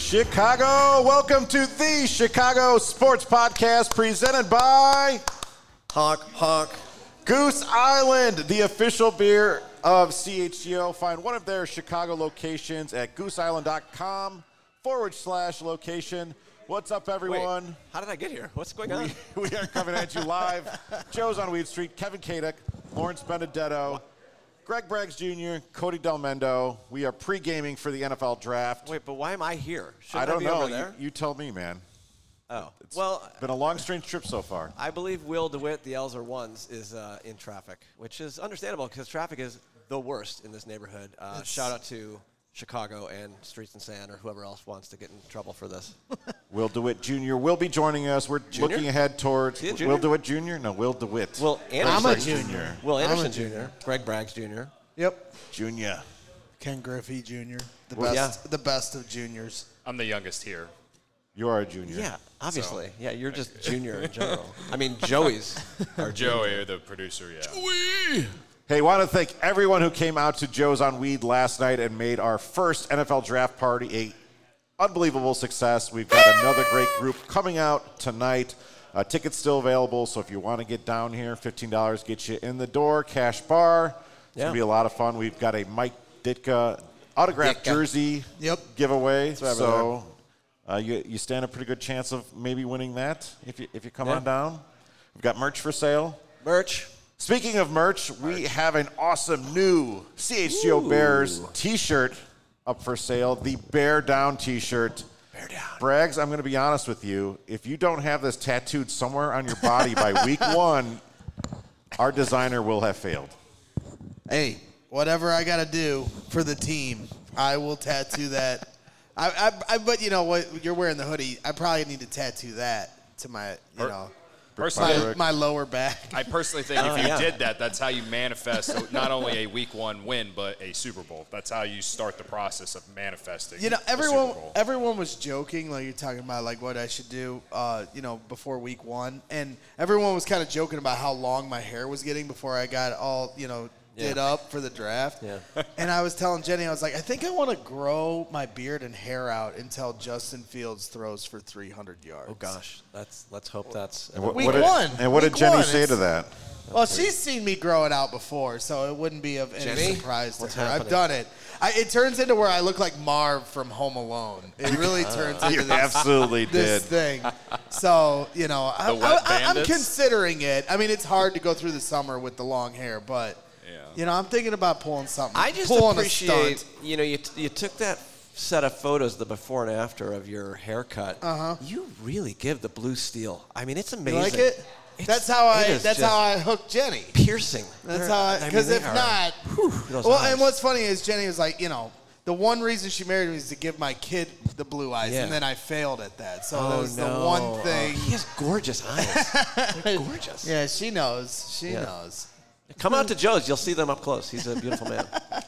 Chicago, welcome to the Chicago Sports Podcast presented by Honk. Goose Island, the official beer of CHGO. Find one of their Chicago locations at gooseisland.com/location. What's up, everyone? Wait, how did I get here? What's going on? We are coming at you live. Joe's on Weed Street, Kevin Kadek, Lawrence Benedetto, Greg Braggs Jr., Cody Delmendo. We are pre-gaming for the NFL Draft. Wait, but why am I here? I don't be know. Over there? You tell me, man. Oh, It's well, been a long, strange trip so far. I believe Will DeWitt, the L's are ones, is in traffic, which is understandable because traffic is the worst in this neighborhood. Shout out to Chicago and Streets and Sand or whoever else wants to get in trouble for this. Will DeWitt Jr. will be joining us. We're looking ahead towards Will DeWitt Jr. No, Will DeWitt. Will Anderson I'm a junior. Will Anderson Jr. Greg Braggs Jr. Yep. Junior. Ken Griffey Jr. Yeah. The best of juniors. I'm the youngest here. You are a junior. Yeah, obviously. So. Yeah, you're just junior in general. I mean, Joey's our Joey, the producer, yeah. Joey! Hey, want to thank everyone who came out to Joe's on Weed last night and made our first NFL draft party a unbelievable success. We've got another great group coming out tonight. Tickets still available, so if you want to get down here, $15 gets you in the door. Cash bar. It's going to be a lot of fun. We've got a Mike Ditka autographed jersey giveaway. So you stand a pretty good chance of maybe winning that if you come on down. We've got merch for sale. Merch. Speaking of merch, we have an awesome new CHGO Bears T-shirt up for sale. The Bear Down T-shirt. Bear Down. Braggs, I'm going to be honest with you. If you don't have this tattooed somewhere on your body by week 1, our designer will have failed. Hey, whatever I got to do for the team, I will tattoo that. But you know what? You're wearing the hoodie. I probably need to tattoo that to my, Personally, my lower back. I personally think if you did that, that's how you manifest not only a Week 1 win, but a Super Bowl. That's how you start the process of manifesting. Everyone was joking, like you're talking about, like what I should do, before Week 1, and everyone was kind of joking about how long my hair was getting before I got all, did up for the draft. Yeah. And I was telling Jenny, I was like, I think I want to grow my beard and hair out until Justin Fields throws for 300 yards. Oh gosh, let's hope that's Week 1. And what did Jenny say to that? Well, she's seen me grow it out before, so it wouldn't be of any surprise to her. Happening? I've done it. It turns into where I look like Marv from Home Alone. It really turns into this thing. So, I'm considering it. I mean, it's hard to go through the summer with the long hair, but I'm thinking about pulling something. I just appreciate, you took that set of photos, the before and after of your haircut. You really give the blue steel. I mean, it's amazing. You like it? That's how I hooked Jenny. Piercing. That's how because if not, and what's funny is Jenny was like, the one reason she married me is to give my kid the blue eyes, and then I failed at that. So that was the one thing. He has gorgeous eyes. They're gorgeous. Yeah, she knows. She knows. Come out to Joe's. You'll see them up close. He's a beautiful man.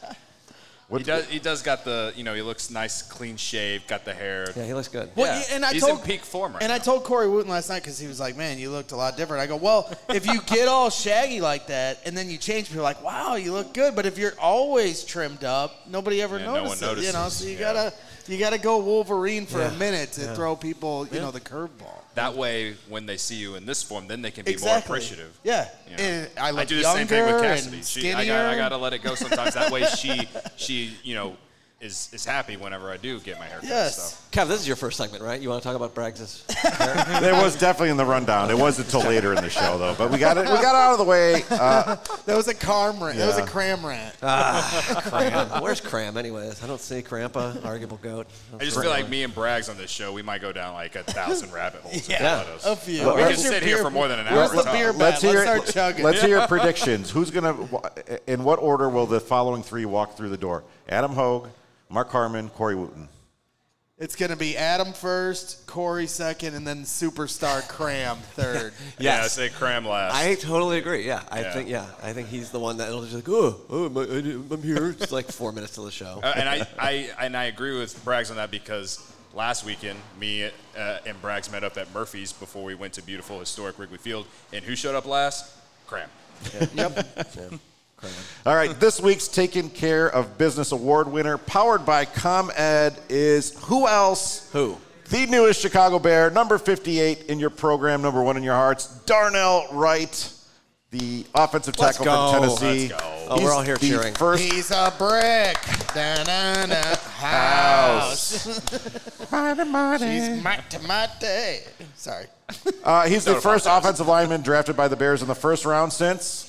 He does got the, he looks nice, clean shaved, got the hair. Yeah, he looks good. Well, and he's in peak form right now. I told Corey Wooten last night because he was like, man, you looked a lot different. I go, well, if you get all shaggy like that and then you change, people are like, wow, you look good. But if you're always trimmed up, nobody ever notices. No one notices. So you gotta go Wolverine for a minute to throw people, the curveball. That way, when they see you in this form, then they can be more appreciative. Yeah, and I look do the same thing with Cassidy. I gotta let it go sometimes. That way, she is happy whenever I do get my hair cut. Yes. So. Kev, this is your first segment, right? You want to talk about Braggs' hair? It was definitely in the rundown. It wasn't until later in the show, though. But we got it out of the way. That was a cram rant. That was a cram rant. Cram. Where's Cram, anyways? I don't see Crampa, arguable goat. I just feel like me and Braggs on this show, we might go down like 1,000 rabbit holes. A few. We can sit here for more than an hour. Where's the beer bat? Let's start chugging. Let's hear your predictions. In what order will the following 3 walk through the door? Adam Hogue, Mark Harmon, Corey Wooten. It's going to be Adam first, Corey second, and then superstar Cram third. Yeah, I say Cram last. I totally agree. Yeah, I think he's the one that'll just like, I'm here. It's like 4 minutes to the show. And I agree with Braggs on that because last weekend, me and Braggs met up at Murphy's before we went to beautiful historic Wrigley Field, and who showed up last? Cram. Yep. All right, this week's Taking Care of Business Award winner, powered by ComEd, is who else? Who? The newest Chicago Bear, number 58 in your program, number 1 in your hearts, Darnell Wright, the offensive tackle from Tennessee. Let's go. Oh, we're all here cheering. He's a brick. Da-na-na. House. She's mighty. Sorry. He's the first offensive lineman drafted by the Bears in the first round since.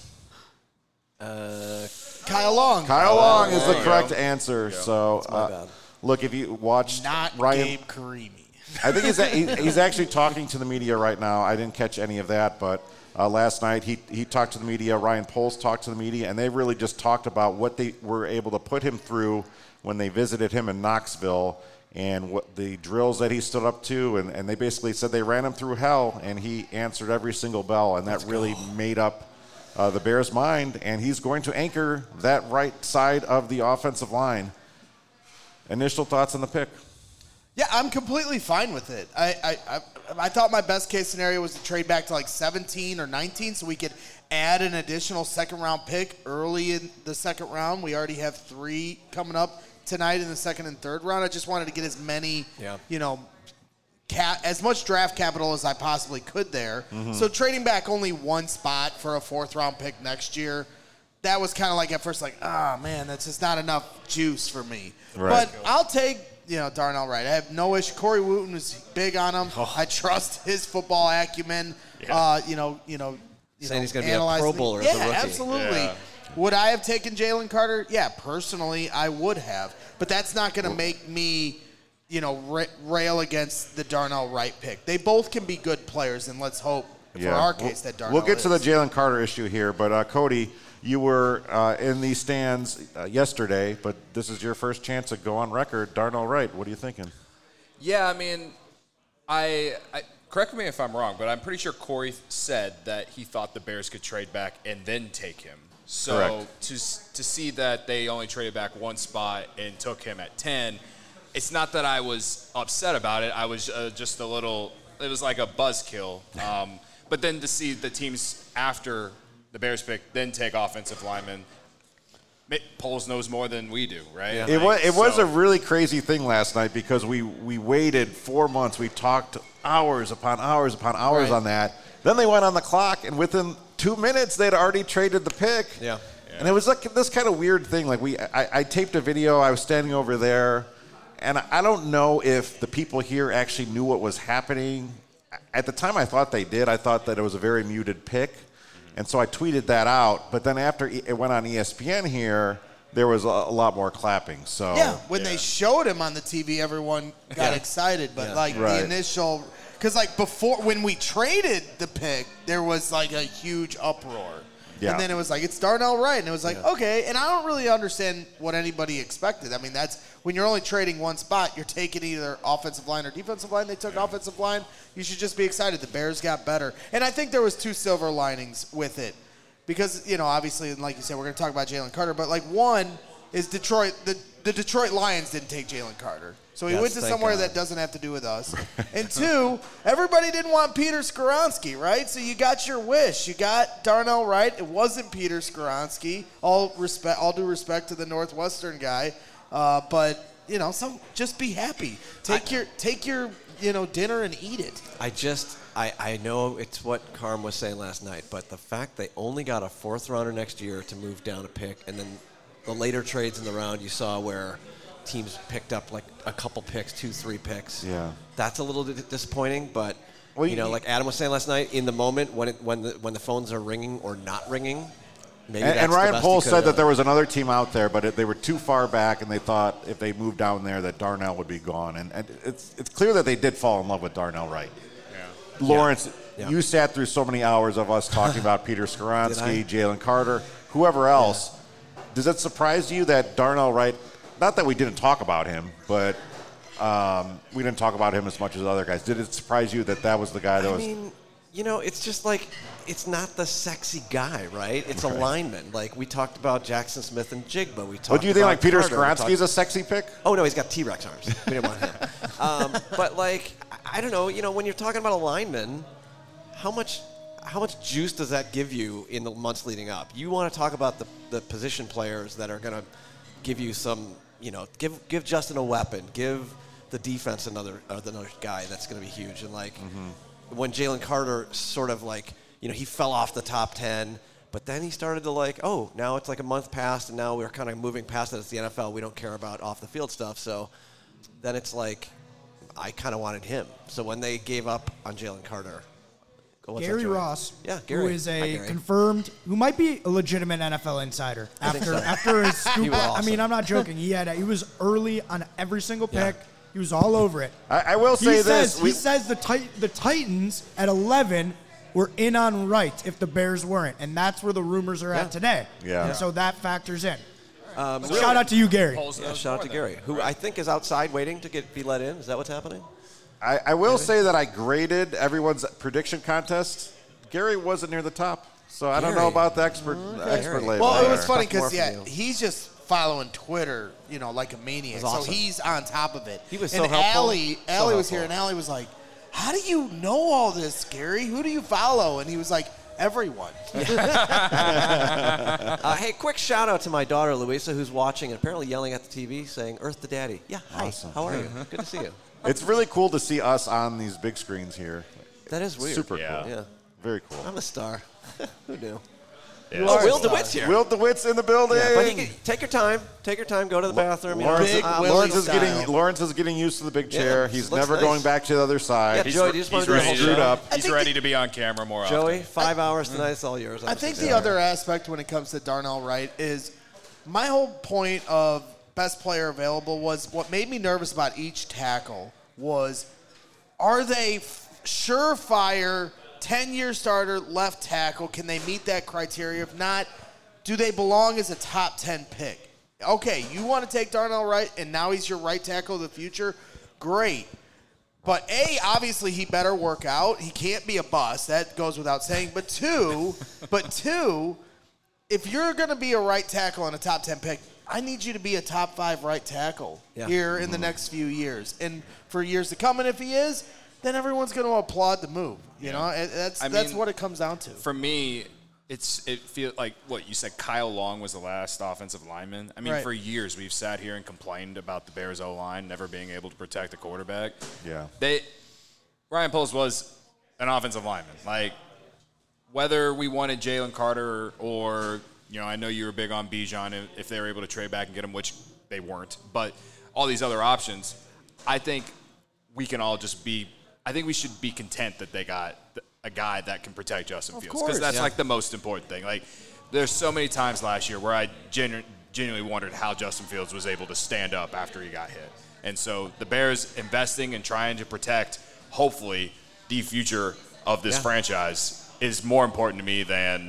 Kyle Long. Kyle Long is the correct answer. Yeah. So, look, if you watched Not Ryan, Gabe Karimi. I think he's actually talking to the media right now. I didn't catch any of that, but last night he talked to the media. Ryan Poles talked to the media, and they really just talked about what they were able to put him through when they visited him in Knoxville and what the drills that he stood up to. And they basically said they ran him through hell, and he answered every single bell, and that really made up the Bears' mind, and he's going to anchor that right side of the offensive line. Initial thoughts on the pick? Yeah, I'm completely fine with it. I thought my best case scenario was to trade back to like 17 or 19 so we could add an additional second-round pick early in the second round. We already have 3 coming up tonight in the second and third round. I just wanted to get as many, as much draft capital as I possibly could there. Mm-hmm. So trading back only 1 spot for a 4th-round pick next year, that was kind of like at first like, man, that's just not enough juice for me. Right. But I'll take Darnell Wright. I have no issue. Corey Wooten was big on him. Oh. I trust his football acumen. Yeah. Saying he's going to be a Pro Bowler as a rookie. Yeah, absolutely. Yeah. Would I have taken Jalen Carter? Yeah, personally, I would have. But that's not going to make me, rail against the Darnell Wright pick. They both can be good players, and let's hope for our case that Darnell We'll get to the Jalen Carter issue here, but Cody, you were in the stands yesterday, but this is your first chance to go on record. Darnell Wright, what are you thinking? Yeah, I mean, I correct me if I'm wrong, but I'm pretty sure Corey said that he thought the Bears could trade back and then take him. So to see that they only traded back 1 spot and took him at 10, it's not that I was upset about it. I was just a little – it was like a buzzkill. But then to see the teams after the Bears pick then take offensive linemen, Poles knows more than we do, right? Yeah. It was a really crazy thing last night because we waited 4 months. We talked hours upon hours upon hours on that. Then they went on the clock, and within 2 minutes, they'd already traded the pick. Yeah. And it was like this kind of weird thing. Like I taped a video. I was standing over there, and I don't know if the people here actually knew what was happening. At the time, I thought they did. I thought that it was a very muted pick. And so I tweeted that out. But then after it went on ESPN here, there was a lot more clapping. So when they showed him on the TV, everyone got excited. But the initial – because before when we traded the pick, there was a huge uproar. Yeah. And then it was it's Darnell Wright. And it was okay. And I don't really understand what anybody expected. I mean, that's when you're only trading 1 spot, you're taking either offensive line or defensive line. They took offensive line. You should just be excited. The Bears got better. And I think there was 2 silver linings with it. Because, obviously, and like you said, we're going to talk about Jalen Carter. But, one is Detroit. The Detroit Lions didn't take Jalen Carter. So he went to somewhere that doesn't have to do with us. And 2, everybody didn't want Peter Skoronski, right? So you got your wish. You got Darnell Wright. It wasn't Peter Skoronski. All due respect to the Northwestern guy. But, so just be happy. Take your dinner and eat it. I know it's what Carm was saying last night, but the fact they only got a 4th rounder next year to move down a pick, and then the later trades in the round you saw where teams picked up a couple picks, 2-3 picks. Yeah, that's a little disappointing. But like Adam was saying last night, in the moment when the phones are ringing or not ringing, maybe. And Ryan Poles said that there was another team out there, but they were too far back, and they thought if they moved down there that Darnell would be gone. And it's clear that they did fall in love with Darnell Wright. Yeah. Lawrence, you sat through so many hours of us talking about Peter Skoronski, Jalen Carter, whoever else. Yeah. Does it surprise you that Darnell Wright? Not that we didn't talk about him, but we didn't talk about him as much as other guys. Did it surprise you that was the guy that was? I mean, it's just it's not the sexy guy, right? It's a lineman. We talked about Jackson Smith and Jigba. We talked. Do you think Peter Skoronski is a sexy pick? Oh no, he's got T-Rex arms. We didn't want him. But I don't know. When you're talking about a lineman, how much how much juice does that give you in the months leading up? You want to talk about the position players that are going to give you some, give Justin a weapon, give the defense another guy that's going to be huge. And when Jalen Carter sort of he fell off the top 10, but then he started to now it's like a month passed, and now we're kind of moving past it. It's the NFL. We don't care about off the field stuff. So then it's I kind of wanted him. So when they gave up on Jalen Carter. Gary Ross, Gary. who is who might be a legitimate NFL insider after his scoop. Awesome. I'm not joking. He was early on every single pick. Yeah. He was all over it. I will say this. He says the Titans at 11 were in on Wright if the Bears weren't, and that's where the rumors are at today. Yeah. And so that factors in. Shout out to you, Gary. Shout out to Gary, who I think is outside waiting to be let in. Is that what's happening? I will say that I graded everyone's prediction contest. Gary wasn't near the top, so I don't know about the expert label. Well, it was funny because he's just following Twitter, like a maniac. Awesome. So he's on top of it. He was so helpful. Allie was here, and Allie was like, "How do you know all this, Gary? Who do you follow?" And he was like, "Everyone." Hey, quick shout out to my daughter Louisa, who's watching and apparently yelling at the TV, saying "Earth to Daddy." Yeah, hi. Awesome. How are you? Good to see you. It's really cool to see us on these big screens here. That is weird. Super cool. Yeah. Very cool. I'm a star. Who knew? Yeah. Oh, Will DeWitt's here. Will DeWitt's in the building. Yeah, but take your time. Take your time. Go to the bathroom. Lawrence is getting used to the big chair. He's never going back to the other side. Yeah, Joey, you just want to ready screwed up. He's ready to be on camera more often. Joey, 5 hours tonight. It's all yours. I think the other aspect when it comes to Darnell Wright is my whole point of best player available was what made me nervous about each tackle was, are they surefire 10-year starter left tackle? Can they meet that criteria? If not, do they belong as a top 10 pick? Okay, you want to take Darnell Wright, and now he's your right tackle of the future? Great. But A, obviously he better work out. He can't be a bust. That goes without saying. But two, if you're going to be a right tackle and a top 10 pick, I need you to be a top 5 right tackle here in the next few years. And for years to come, and if he is, then everyone's going to applaud the move. You know, that's what it comes down to. For me, it feels like what you said. Kyle Long was the last offensive lineman. I mean, for years we've sat here and complained about the Bears O-line never being able to protect the quarterback. Yeah, Ryan Poles was an offensive lineman. Like, whether we wanted Jalen Carter or I know you were big on Bijan if they were able to trade back and get him, which they weren't. But all these other options, I think we can all just be. I think we should be content that they got a guy that can protect Justin Fields, because that's like the most important thing. Like, there's so many times last year where I genuinely wondered how Justin Fields was able to stand up after he got hit. And so the Bears investing and trying to protect, hopefully, the future of this franchise is more important to me than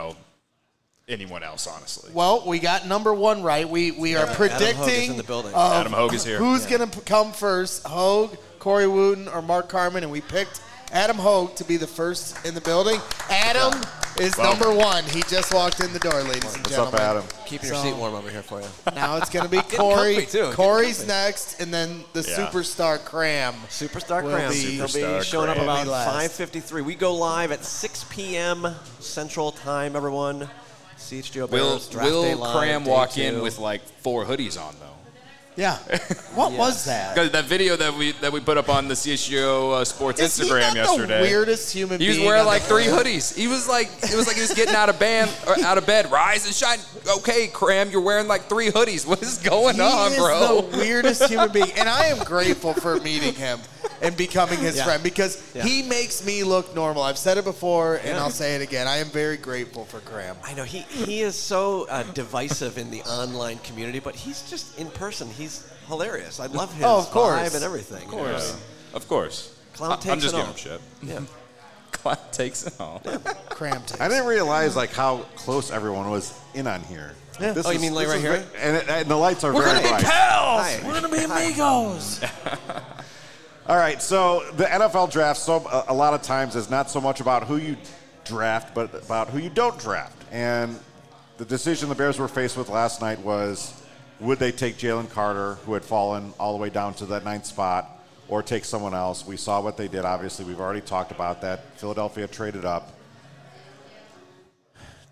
anyone else, honestly. Well, we got number 1 right. We are predicting Adam Hogue is here. Who's going to come first, Hogue, Corey Wooten, or Mark Carman, and we picked Adam Hogue to be the first in the building. Adam is number 1. He just walked in the door, ladies and gentlemen. What's up, Adam? Keeping your seat warm over here for you. Now it's going to be Corey. Corey's next, and then the superstar Cram. Superstar Cram. He'll be showing up about 5:53. We go live at 6 p.m. Central Time, everyone. CHGO Bears Draft Day Live. Will Cram walk in with like 4 hoodies on, though? Yeah. What was that? Because that video that we put up on the CHGO Sports Instagram yesterday. The weirdest human being. He was wearing like 3 hoodies. It was like he was getting out of bed. Rise and shine. Okay, Cram, you're wearing like 3 hoodies. What is going on, bro? He is the weirdest human being, and I am grateful for meeting him and becoming his friend, because he makes me look normal. I've said it before, and I'll say it again. I am very grateful for Cram. I know he is so divisive in the online community, but he's just in person. He's hilarious. I love his vibe and everything. Of course. Clown takes I'm just it giving all. him shit. Yeah. Clown takes it all. Cram takes I didn't realize how close everyone was in on here. Yeah. You mean like right here? And the lights are very bright. We're going to be amigos. All right, so the NFL draft, a lot of times, is not so much about who you draft, but about who you don't draft. And the decision the Bears were faced with last night was, would they take Jalen Carter, who had fallen all the way down to that 9th spot, or take someone else? We saw what they did. Obviously, we've already talked about that. Philadelphia traded up.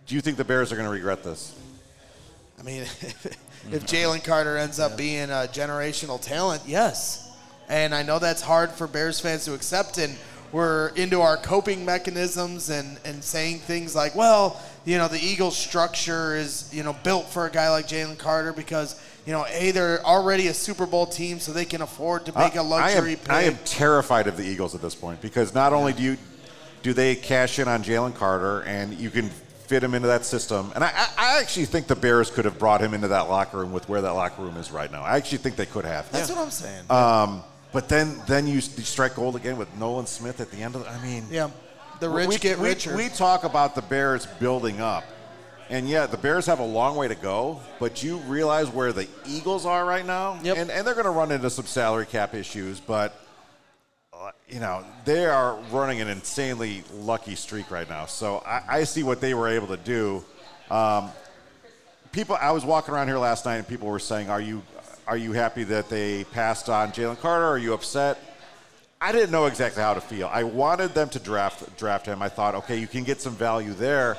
Do you think the Bears are going to regret this? I mean, if Jalen Carter ends up being a generational talent, yes. And I know that's hard for Bears fans to accept, and we're into our coping mechanisms and saying things like, well, the Eagles structure is, built for a guy like Jalen Carter because, they're already a Super Bowl team, so they can afford to make a luxury pick. I am terrified of the Eagles at this point because not only do they cash in on Jalen Carter and you can fit him into that system, and I actually think the Bears could have brought him into that locker room with where that locker room is right now. I actually think they could have. That's what I'm saying. But then you strike gold again with Nolan Smith at the end of it. I mean, the rich get richer. We talk about the Bears building up, and the Bears have a long way to go. But you realize where the Eagles are right now, and they're going to run into some salary cap issues, but they are running an insanely lucky streak right now. So I see what they were able to do. I was walking around here last night, and people were saying, Are you happy that they passed on Jalen Carter? Are you upset? I didn't know exactly how to feel. I wanted them to draft him. I thought, okay, you can get some value there.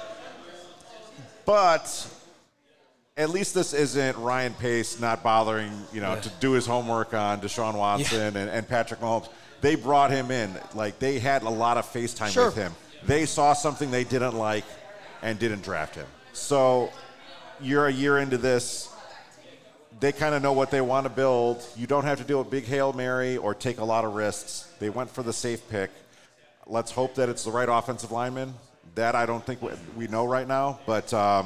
But at least this isn't Ryan Pace not bothering, to do his homework on Deshaun Watson and Patrick Mahomes. They brought him in. Like, they had a lot of FaceTime with him. They saw something they didn't like and didn't draft him. So you're a year into this. They kind of know what they want to build. You don't have to do a big Hail Mary or take a lot of risks. They went for the safe pick. Let's hope that it's the right offensive lineman. That I don't think we know right now. But I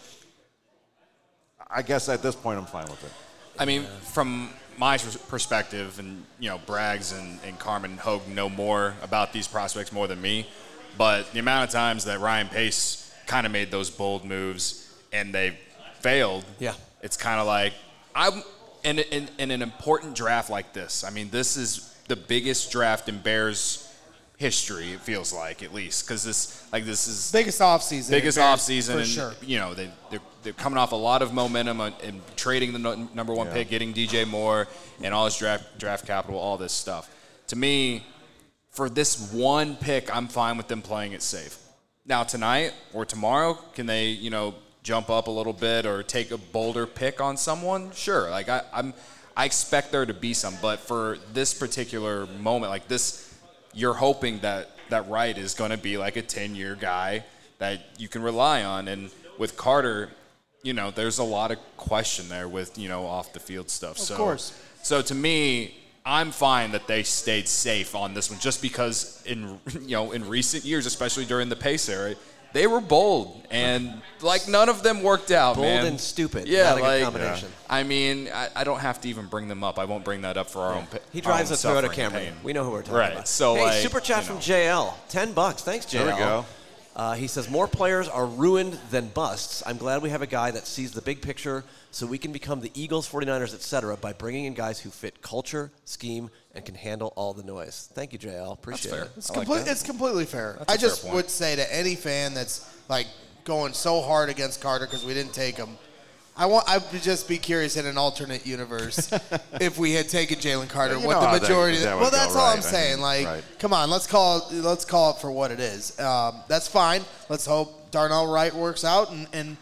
guess at this point I'm fine with it. I mean, from my perspective, and, Braggs and Carmen Hogue know more about these prospects more than me. But the amount of times that Ryan Pace kind of made those bold moves and they failed, it's kind of like, I'm in an important draft like this. I mean, this is the biggest draft in Bears history. It feels like, at least, because this is biggest offseason for sure. They're coming off a lot of momentum and trading the number one pick, getting DJ Moore and all his draft capital, all this stuff. To me, for this one pick, I'm fine with them playing it safe. Now tonight or tomorrow, can they jump up a little bit or take a bolder pick on someone? Sure. Like I expect there to be some, but for this particular moment, like this, you're hoping that Wright is going to be like a 10-year guy that you can rely on. And with Carter, there's a lot of question there with, off the field stuff. Of course. So to me, I'm fine that they stayed safe on this one, just because in recent years, especially during the Pace era, they were bold, and none of them worked out. Bold man. and stupid. Yeah, not a good combination. I mean, I don't have to even bring them up. I won't bring that up for our own. He drives a Toyota Camry. Pain. We know who we're talking about. So, super chat from JL, $10. Thanks, JL. There we go. He says, more players are ruined than busts. I'm glad we have a guy that sees the big picture so we can become the Eagles, 49ers, etc. by bringing in guys who fit culture, scheme, and can handle all the noise. Thank you, JL. Appreciate it. It's completely fair. That's I just would say to any fan that's going so hard against Carter because we didn't take him, I would just be curious in an alternate universe if we had taken Jalen Carter, what the majority. That's all I'm saying. Come on, let's call it for what it is. That's fine. Let's hope Darnell Wright works out,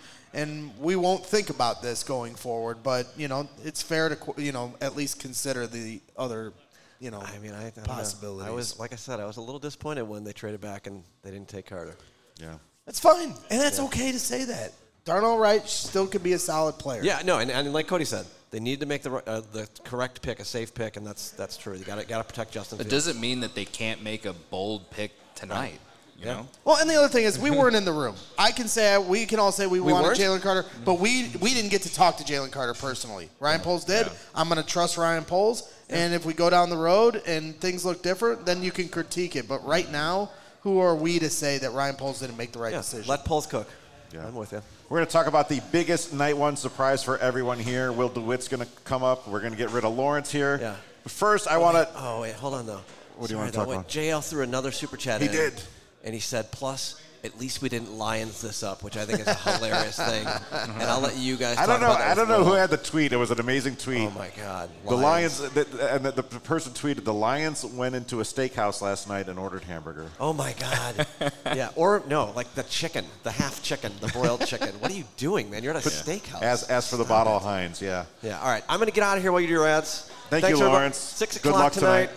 and we won't think about this going forward. But it's fair to at least consider the other. I possibilities. I was, like I said, I was a little disappointed when they traded back and they didn't take Carter. Yeah, that's fine, and that's okay to say that. Darnell Wright still could be a solid player. Yeah, no, and like Cody said, they need to make the correct pick, a safe pick, and that's true. You got to protect Justin Fields. It doesn't mean that they can't make a bold pick tonight. You know? Well, and the other thing is we weren't in the room. We can all say we wanted Jalen Carter, but we didn't get to talk to Jalen Carter personally. Ryan Poles did. Yeah. I'm going to trust Ryan Poles, and if we go down the road and things look different, then you can critique it. But right now, who are we to say that Ryan Poles didn't make the right decision? Let Poles cook. Yeah. I'm with you. We're going to talk about the biggest night one surprise for everyone here. Will DeWitt's going to come up. We're going to get rid of Lawrence here. Yeah. But first, I want to. Oh, wait, hold on, though. What do you want to talk about? JL threw another super chat in. He did. And he said, plus, At least we didn't Lions this up, which I think is a hilarious thing. And I'll let you guys. I don't know who had the tweet. It was an amazing tweet. Oh my God! The Lions, the person tweeted, the Lions went into a steakhouse last night and ordered hamburger. Oh my God! Yeah, or no, like the chicken, the half chicken, the broiled chicken. What are you doing, man? You're at a steakhouse. As for the bottle of Heinz, yeah. Yeah. All right, I'm gonna get out of here while you do your ads. Thanks, Lawrence. 6 Good o'clock luck tonight.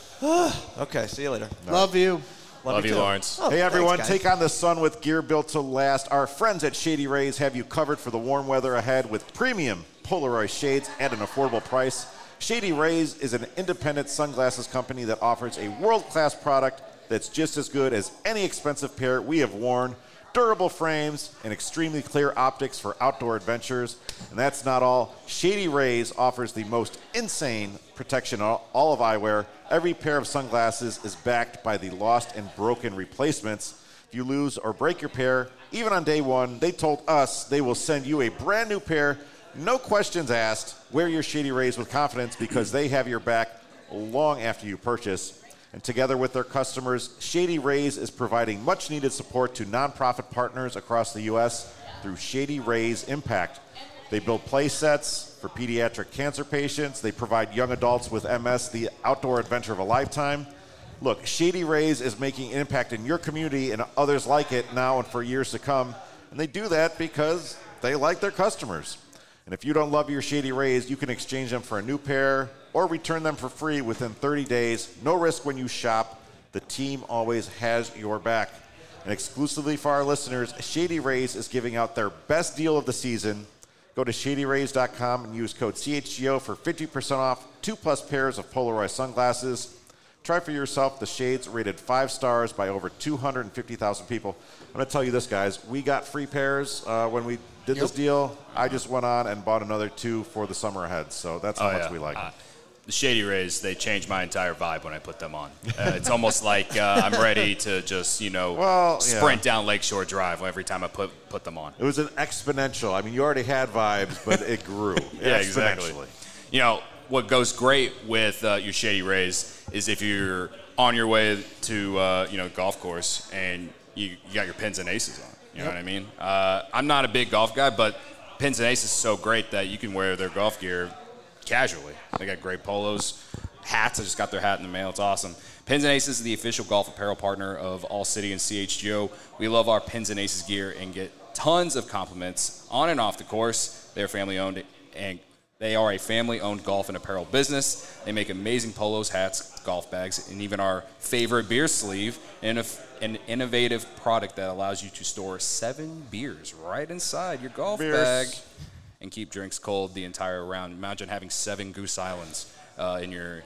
Okay, see you later. Love you. Love you, too. Lawrence. Oh, Hey, everyone, thanks, guys. take on the sun with gear built to last. Our friends at Shady Rays have you covered for the warm weather ahead with premium Polaroid shades at an affordable price. Shady Rays is an independent sunglasses company that offers a world-class product that's just as good as any expensive pair we have worn. Durable frames and extremely clear optics for outdoor adventures. And that's not all. Shady Rays offers the most insane protection on all of eyewear. Every pair of sunglasses is backed by the lost and broken replacements. If you lose or break your pair, even on day one, they told us they will send you a brand new pair. No questions asked. Wear your Shady Rays with confidence because they have your back long after you purchase. And together with their customers, Shady Rays is providing much-needed support to nonprofit partners across the U.S. through Shady Rays Impact. They build play sets for pediatric cancer patients. They provide young adults with MS the outdoor adventure of a lifetime. Look, Shady Rays is making an impact in your community and others like it now and for years to come. And they do that because they like their customers. And if you don't love your Shady Rays, you can exchange them for a new pair or return them for free within 30 days. No risk when you shop. The team always has your back. And exclusively for our listeners, Shady Rays is giving out their best deal of the season. Go to ShadyRays.com and use code CHGO for 50% off 2+ pairs of Polaroid sunglasses. Try for yourself the shades rated 5 stars by over 250,000 people. I'm going to tell you this, guys. We got free pairs when we did this deal. I just went on and bought another 2 for the summer ahead. So that's how much we like them. The Shady Rays, they changed my entire vibe when I put them on. It's almost like I'm ready to just, sprint down Lakeshore Drive every time I put them on. It was an exponential. I mean, you already had vibes, but it grew. Yeah, exactly. What goes great with your Shady Rays is if you're on your way to, golf course and you got your pins and aces on. You know what I mean? I'm not a big golf guy, but pins and aces is so great that you can wear their golf gear casually. They got great polos, hats. I just got their hat in the mail. It's awesome. Pins and Aces is the official golf apparel partner of All City and CHGO. We love our Pins and Aces gear and get tons of compliments on and off the course. They're family owned and they are a family-owned golf and apparel business. They make amazing polos, hats, golf bags, and even our favorite beer sleeve, and an innovative product that allows you to store 7 beers right inside your golf bag and keep drinks cold the entire round. Imagine having 7 Goose Islands in your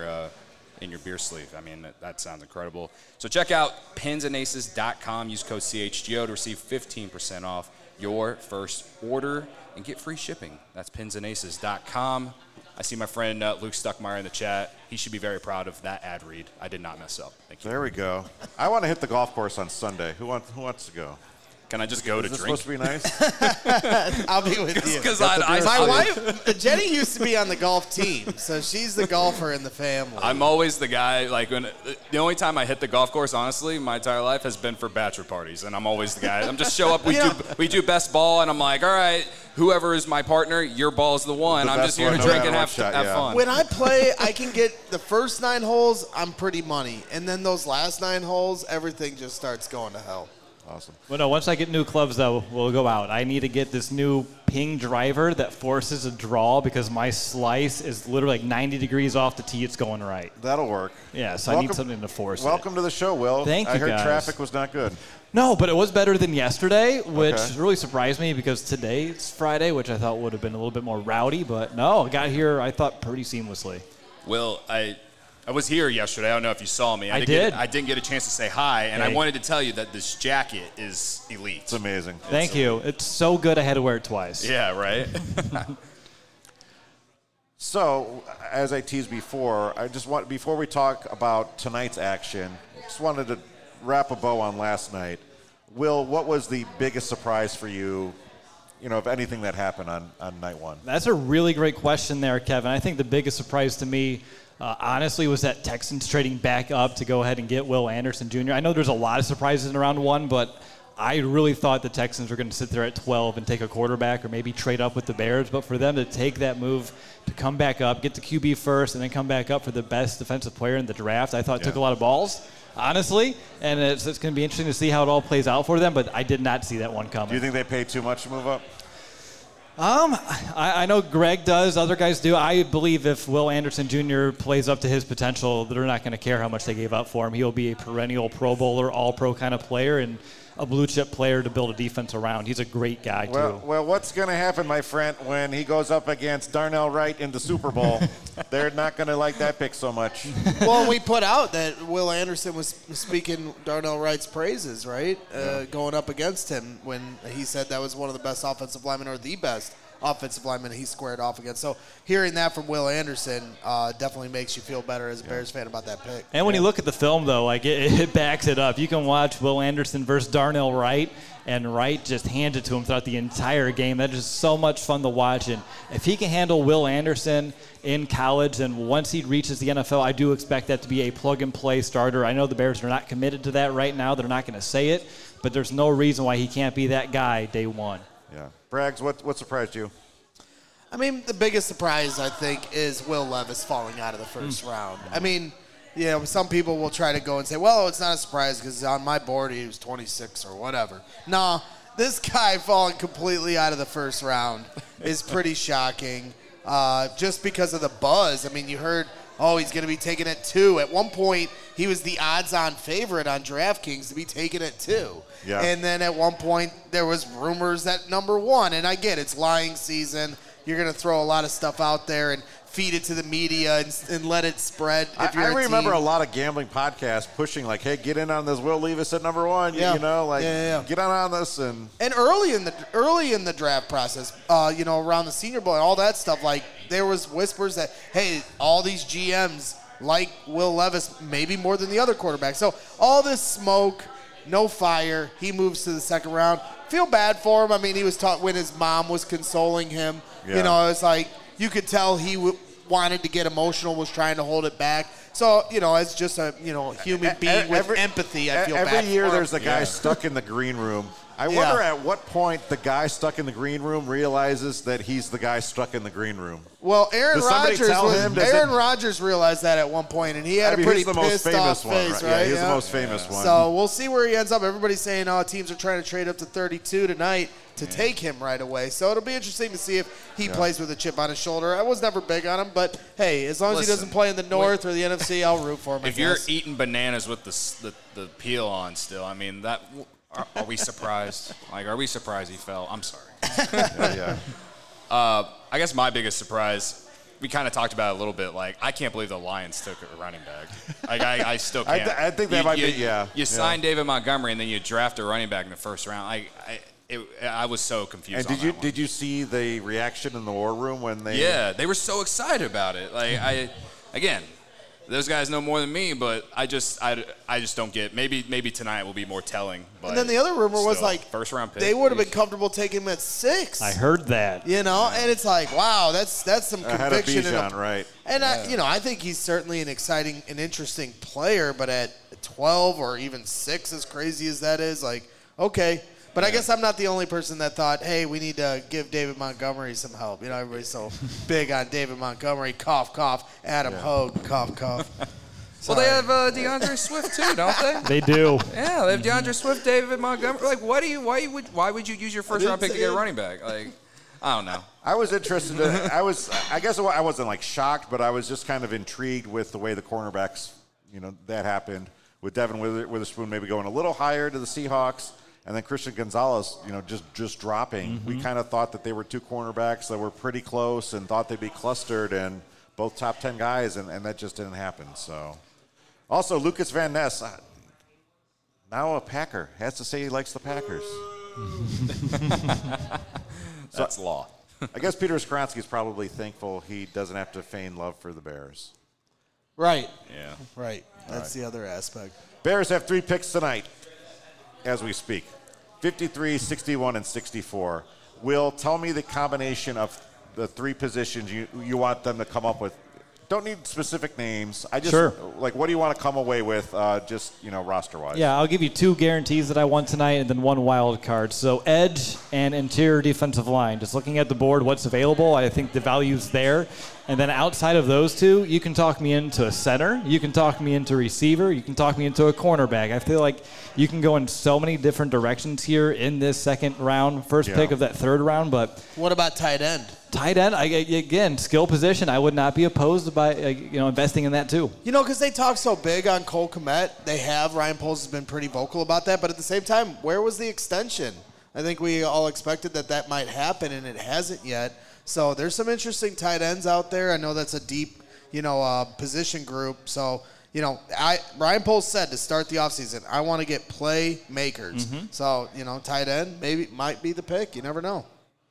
beer sleeve. I mean, that sounds incredible. So check out pinsandaces.com. Use code CHGO to receive 15% off your first order and get free shipping. That's pinsandaces.com. I see my friend Luke Stuckmeyer in the chat. He should be very proud of that ad read. I did not mess up. Thank you. There we go. I want to hit the golf course on Sunday. Who wants to go? Can I just go to Is this drink? supposed to be nice? I'll be with you. Because My wife, Jenny, used to be on the golf team, so she's the golfer in the family. I'm always the guy, the only time I hit the golf course, honestly, my entire life has been for bachelor parties, and I'm always the guy. I'm just show up, we do best ball, and I'm like, all right, whoever is my partner, your ball's the one. I'm just here to drink and have fun. When I play, I can get the first 9 holes, I'm pretty money, and then those last 9 holes, everything just starts going to hell. Awesome. Well, no, once I get new clubs, though, we'll go out. I need to get this new ping driver that forces a draw because my slice is literally like 90 degrees off the tee. It's going right. That'll work. Yeah, so I need something to force Welcome to the show, Will. Thank you, I heard guys. traffic was not good. No, but it was better than yesterday, which Okay. really surprised me because today's Friday, which I thought would have been a little bit more rowdy. But no, I got here, I thought, pretty seamlessly. Will, I was here yesterday. I don't know if you saw me. I didn't get a chance to say hi, and I wanted to tell you that this jacket is elite. It's amazing. Thank you. It's so good I had to wear it twice. Yeah, right? So, as I teased before, before we talk about tonight's action, just wanted to wrap a bow on last night. Will, what was the biggest surprise for you, of anything that happened on night one? That's a really great question there, Kevin. I think the biggest surprise to me honestly was that Texans trading back up to go ahead and get Will Anderson Jr. I know there's a lot of surprises in round 1, but I really thought the Texans were going to sit there at 12 and take a quarterback or maybe trade up with the Bears. But for them to take that move to come back up, get the QB first, and then come back up for the best defensive player in the draft, I thought took a lot of balls, honestly. And it's going to be interesting to see how it all plays out for them. But I did not see that one coming. Do you think they paid too much to move up? I know Greg does. Other guys do. I believe if Will Anderson Jr. plays up to his potential, they're not going to care how much they gave up for him. He'll be a perennial Pro Bowler, All-Pro kind of player, and a blue-chip player to build a defense around. He's a great guy, too. Well, what's going to happen, my friend, when he goes up against Darnell Wright in the Super Bowl? They're not going to like that pick so much. Well, we put out that Will Anderson was speaking Darnell Wright's praises, right? Going up against him when he said that was one of the best offensive linemen or the best offensive lineman he squared off against. So hearing that from Will Anderson definitely makes you feel better as a Bears fan about that pick. And when you look at the film, though, like it backs it up. You can watch Will Anderson versus Darnell Wright, and Wright just hands it to him throughout the entire game. That is so much fun to watch. And if he can handle Will Anderson in college, then once he reaches the NFL, I do expect that to be a plug-and-play starter. I know the Bears are not committed to that right now. They're not going to say it, but there's no reason why he can't be that guy day one. Yeah. Braggs, what surprised you? I mean, the biggest surprise, I think, is Will Levis falling out of the first round. I mean, you know, some people will try to go and say, well, it's not a surprise because on my board he was 26 or whatever. No, this guy falling completely out of the first round is pretty shocking just because of the buzz. I mean, you heard, he's going to be taken at 2. At one point, he was the odds-on favorite on DraftKings to be taken at 2. Yeah. And then at one point, there was rumors that number 1. And I get it's lying season. You're going to throw a lot of stuff out there and feed it to the media and let it spread. I remember a lot of gambling podcasts pushing like, hey, get in on this Will Levis at number 1. Yeah. You know, like get on this. And early in the draft process, you know, around the Senior Bowl and all that stuff, like there was whispers that, hey, all these GMs like Will Levis maybe more than the other quarterbacks. So all this smoke, no fire. He moves to the second round. Feel bad for him. I mean, he was taught when his mom was consoling him. Yeah. You know, it's like you could tell he wanted to get emotional, was trying to hold it back. So, you know, as just a human being with empathy, I feel bad for him. Every year there's a guy stuck in the green room. I wonder at what point the guy stuck in the green room realizes that he's the guy stuck in the green room. Well, Aaron Rodgers realized that at one point, and he had a pretty pissed off face, right? Yeah, he's the most famous one. So we'll see where he ends up. Everybody's saying, teams are trying to trade up to 32 tonight to take him right away. So it'll be interesting to see if he plays with a chip on his shoulder. I was never big on him, but hey, as long as he doesn't play in the North or the NFC, I'll root for him. If you're eating bananas with the peel on still, I mean, that are we surprised? Like, are we surprised he fell? I'm sorry. I guess my biggest surprise, we kind of talked about it a little bit. Like, I can't believe the Lions took a running back. Like, I still can't. I think that might be. You sign David Montgomery and then you draft a running back in the first round. I was so confused. And did you see the reaction in the war room when they? Yeah, they were so excited about it. Like again, those guys know more than me, but I just don't get. Maybe tonight will be more telling. But and then the other rumor was like first round pick. They would have been comfortable taking him at 6. I heard that. You know, and it's like, wow, that's some conviction. Right. And I think he's certainly an exciting and interesting player, but at 12 or even 6, as crazy as that is, like, okay. But I guess I'm not the only person that thought, hey, we need to give David Montgomery some help. You know, everybody's so big on David Montgomery. Cough, cough. Adam Hogue. Cough, cough. Well, they have DeAndre Swift too, don't they? They do. Yeah, they have DeAndre Swift, David Montgomery. Like, why would you use your first round pick to get a running back? Like, I don't know. I was interested. I guess I wasn't like shocked, but I was just kind of intrigued with the way the cornerbacks, that happened with Devin Witherspoon maybe going a little higher to the Seahawks. And then Christian Gonzalez, just dropping. Mm-hmm. We kind of thought that they were two cornerbacks that were pretty close and thought they'd be clustered and both top 10 guys, and that just didn't happen. So, also, Lucas Van Ness, now a Packer, has to say he likes the Packers. That's law. I guess Peter Skoronski is probably thankful he doesn't have to feign love for the Bears. Right. Yeah. Right. That's the other aspect. Bears have 3 picks tonight. As we speak, 53, 61, and 64. Will, tell me the combination of the 3 positions you want them to come up with. don't need specific names. I just Sure. like, what do you want to come away with, just roster wise? Yeah, I'll give you 2 guarantees that I want tonight and then 1 wild card. So edge and interior defensive line. Just looking at the board, what's available, I think the value's there. And then outside of those 2, you can talk me into a center, you can talk me into receiver, you can talk me into a cornerback. I feel like you can go in so many different directions here in this second round, first pick of that third round. But what about tight end? Tight end, again, skill position. I would not be opposed by investing in that too. Because they talk so big on Cole Kmet. They have. Ryan Poles has been pretty vocal about that. But at the same time, where was the extension? I think we all expected that might happen, and it hasn't yet. So there's some interesting tight ends out there. I know that's a deep, position group. So, Ryan Poles said to start the offseason, I want to get playmakers. Mm-hmm. So, tight end might be the pick. You never know.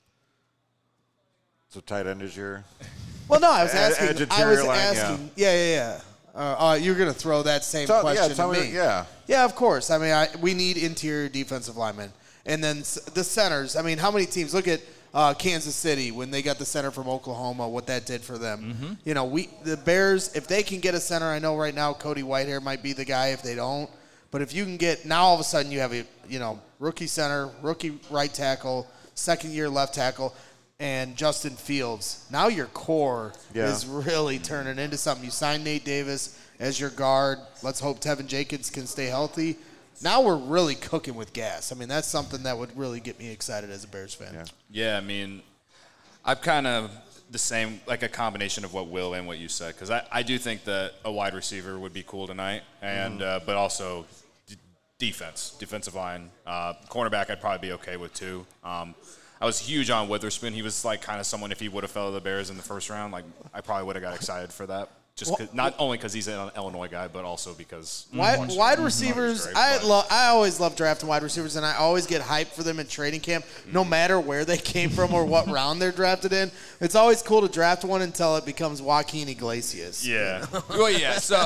So tight end is your... Well, no, I was asking. Line, Yeah. You're going to throw that same question to me. Yeah, of course. I mean, we need interior defensive linemen. And then the centers. I mean, how many teams? Look at Kansas City when they got the center from Oklahoma, what that did for them. Mm-hmm. The Bears, if they can get a center, I know right now Cody Whitehair might be the guy if they don't. But if you can get, now all of a sudden you have a, rookie center, rookie right tackle, second-year left tackle, and Justin Fields. Now your core is really turning into something. You signed Nate Davis as your guard. Let's hope Tevin Jenkins can stay healthy. Now we're really cooking with gas. I mean, that's something that would really get me excited as a Bears fan. Yeah, I mean, I'm kind of the same, like a combination of what Will and what you said, because I do think that a wide receiver would be cool tonight, and but also defensive line. Cornerback I'd probably be okay with too. I was huge on Witherspoon. He was like kind of someone, if he would have fell to the Bears in the first round, like I probably would have got excited for that. Just not only because he's an Illinois guy, but also because wide receivers. I always love drafting wide receivers, and I always get hyped for them in training camp, no matter where they came from or what round they're drafted in. It's always cool to draft one until it becomes Joaquin Iglesias. Yeah. Well, yeah. So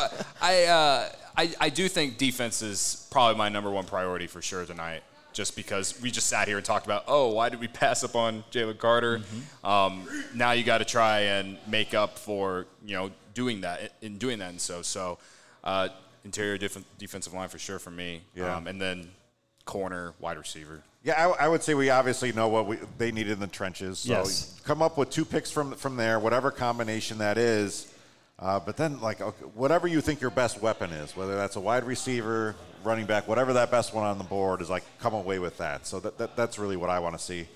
I do think defense is probably my number one priority for sure tonight. Just because we just sat here and talked about, why did we pass up on Jalen Carter? Mm-hmm. Now you got to try and make up for doing that. And so interior defensive line for sure for me. Yeah. And then corner, wide receiver. Yeah, I would say we obviously know what they needed in the trenches. So come up with 2 picks from there, whatever combination that is. But then, whatever you think your best weapon is, whether that's a wide receiver, running back, whatever that best one on the board is, come away with that. So that's really what I want to see.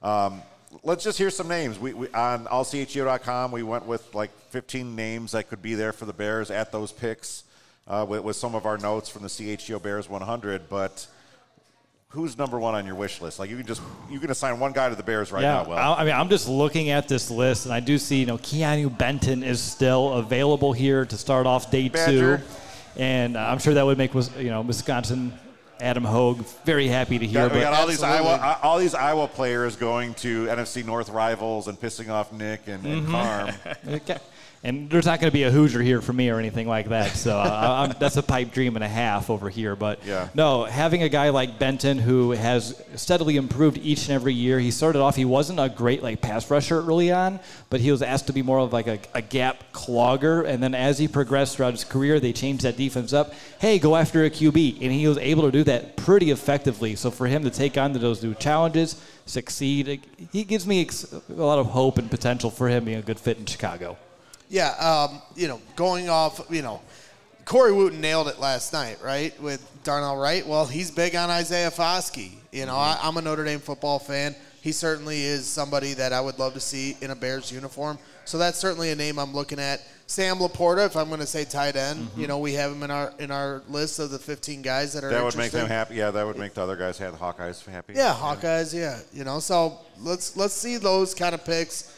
Let's just hear some names. We on allchgo.com, we went with 15 names that could be there for the Bears at those picks with some of our notes from the CHGO Bears 100. But who's number one on your wish list? You can assign one guy to the Bears now. Will. I'm just looking at this list, and I do see Keanu Benton is still available here to start off day Badger. 2, and I'm sure that would make Wisconsin Adam Hogue very happy to hear. We got all these Iowa players going to NFC North rivals and pissing off Nick and Carm. Okay. And there's not going to be a Hoosier here for me or anything like that. So that's a pipe dream and a half over here. But no, having a guy like Benton who has steadily improved each and every year. He started off, he wasn't a great pass rusher early on, but he was asked to be more of a gap clogger. And then as he progressed throughout his career, they changed that defense up. Hey, go after a QB. And he was able to do that pretty effectively. So for him to take on those new challenges, succeed, he gives me a lot of hope and potential for him being a good fit in Chicago. Yeah, going off, Corey Wooten nailed it last night, right, with Darnell Wright. Well, he's big on Isaiah Foskey. I'm a Notre Dame football fan. He certainly is somebody that I would love to see in a Bears uniform. So that's certainly a name I'm looking at. Sam Laporta, if I'm going to say tight end, we have him in our list of the 15 guys that are That would make them happy. Yeah, that would make the other guys, the Hawkeyes, happy. Yeah, Hawkeyes, yeah. So let's see those kind of picks,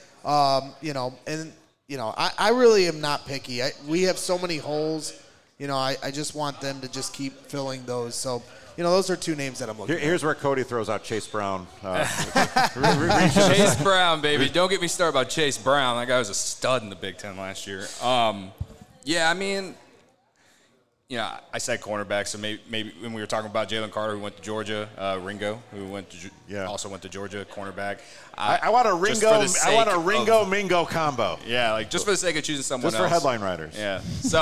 I really am not picky. We have so many holes. I just want them to just keep filling those. So, those are 2 names that I'm looking at. Here's where Cody throws out Chase Brown. Chase Brown, baby. Don't get me started about Chase Brown. That guy was a stud in the Big Ten last year. I said cornerback, so maybe when we were talking about Jalen Carter, who went to Georgia, Ringo, who also went to Georgia, cornerback. I want a Ringo Mingo combo. Yeah, like just for the sake of choosing someone else. Just for headline writers. Yeah. So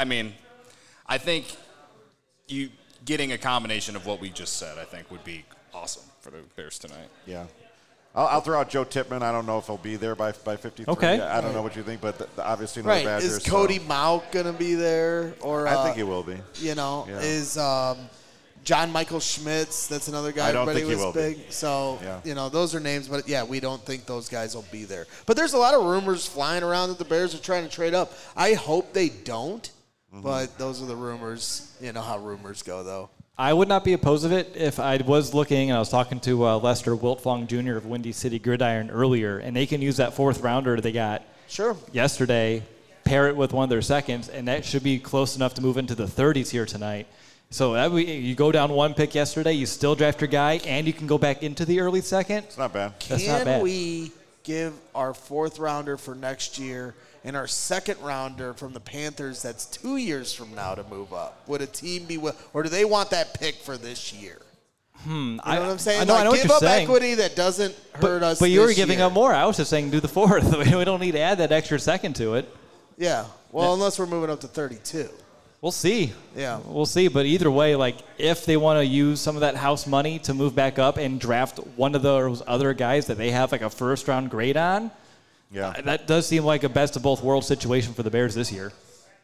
I think you getting a combination of what we just said, I think would be awesome for the Bears tonight. Yeah. I'll throw out Joe Tippmann. I don't know if he'll be there by 53. Okay. I don't know what you think, but obviously another Badger. Is Cody Mauch going to be there? Or I think he will be. Is John Michael Schmitz? That's another guy. I don't everybody think he was will big. be. So, those are names. But, we don't think those guys will be there. But there's a lot of rumors flying around that the Bears are trying to trade up. I hope they don't. But those are the rumors. You know how rumors go, though. I would not be opposed to it if I was looking, and I was talking to Lester Wiltfong Jr. of Windy City Gridiron earlier, and they can use that fourth rounder they got yesterday, pair it with one of their seconds, and that should be close enough to move into the 30s here tonight. So you go down one pick yesterday, you still draft your guy, and you can go back into the early second. It's not bad. That's not bad. Can we give our fourth rounder for next year and our second rounder from the Panthers that's 2 years from now to move up? Would a team be or do they want that pick for this year? You know what I'm saying? I know give what you're up saying. Equity that doesn't hurt us. But you were giving year. up more. I was just saying do the fourth. We don't need to add that extra second to it. Yeah. Well, unless we're moving up to 32. We'll see. Yeah. We'll see. But either way, if they want to use some of that house money to move back up and draft one of those other guys that they have a first-round grade on, that does seem like a best of both worlds situation for the Bears this year.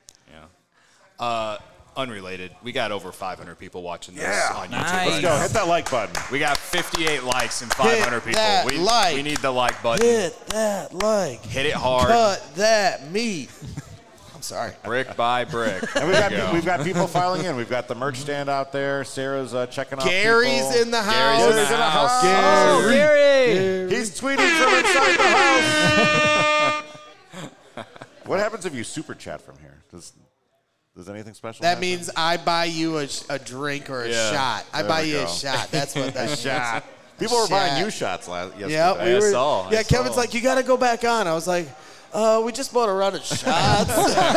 Yeah. Unrelated, we got over 500 people watching this on YouTube. Nice. Let's go. Hit that like button. We got 58 likes and 500 people. We need the like button. Hit that like. Hit it hard. Cut that meat. I'm sorry. Brick by brick. And we've got people filing in. We've got the merch stand out there. Sarah's checking out Gary's people. in the house. Gary's in the house. Gary! He's tweeting from inside the house. What happens if you super chat from here? Does anything special That happen? means I buy you a drink or a shot. I buy you a shot. That's what that means. shot. People were buying you shots yesterday. Yeah, we were. I Kevin's saw. like, you got to go back on. I was like, we just bought a round of shots.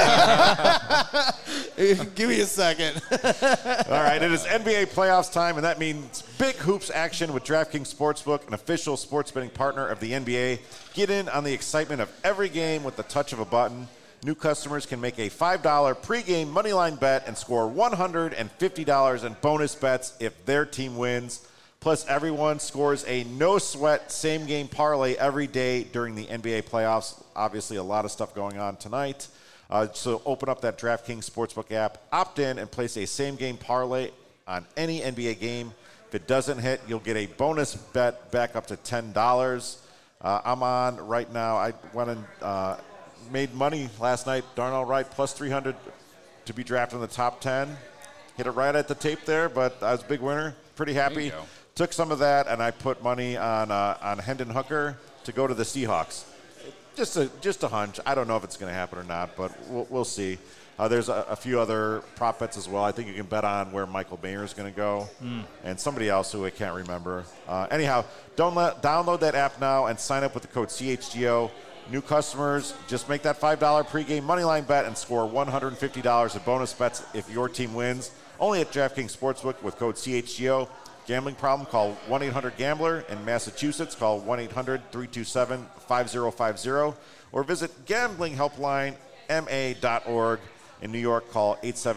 Give me a second. All right, it is NBA playoffs time, and that means big hoops action with DraftKings Sportsbook, an official sports betting partner of the NBA. Get in on the excitement of every game with the touch of a button. New customers can make a $5 pregame moneyline bet and score $150 in bonus bets if their team wins. Plus, everyone scores a no-sweat same-game parlay every day during the NBA playoffs. Obviously, a lot of stuff going on tonight. So open up that DraftKings Sportsbook app, opt in, and place a same-game parlay on any NBA game. If it doesn't hit, you'll get a bonus bet back up to $10. I'm on right now. I went and made money last night, darn all right, plus 300 to be drafted in the top 10. Hit it right at the tape there, but I was a big winner. Pretty happy. Took some of that, and I put money on Hendon Hooker to go to the Seahawks. Just a hunch. I don't know if it's going to happen or not, but we'll see. There's a few other prop bets as well. I think you can bet on where Michael Mayer is going to go and somebody else who I can't remember. Anyhow, download that app now and sign up with the code CHGO. New customers, just make that $5 pregame moneyline bet and score $150 in bonus bets if your team wins. Only at DraftKings Sportsbook with code CHGO. Gambling problem, call 1-800-GAMBLER. In Massachusetts, call 1-800-327-5050. Or visit gamblinghelplinema.org. In New York, call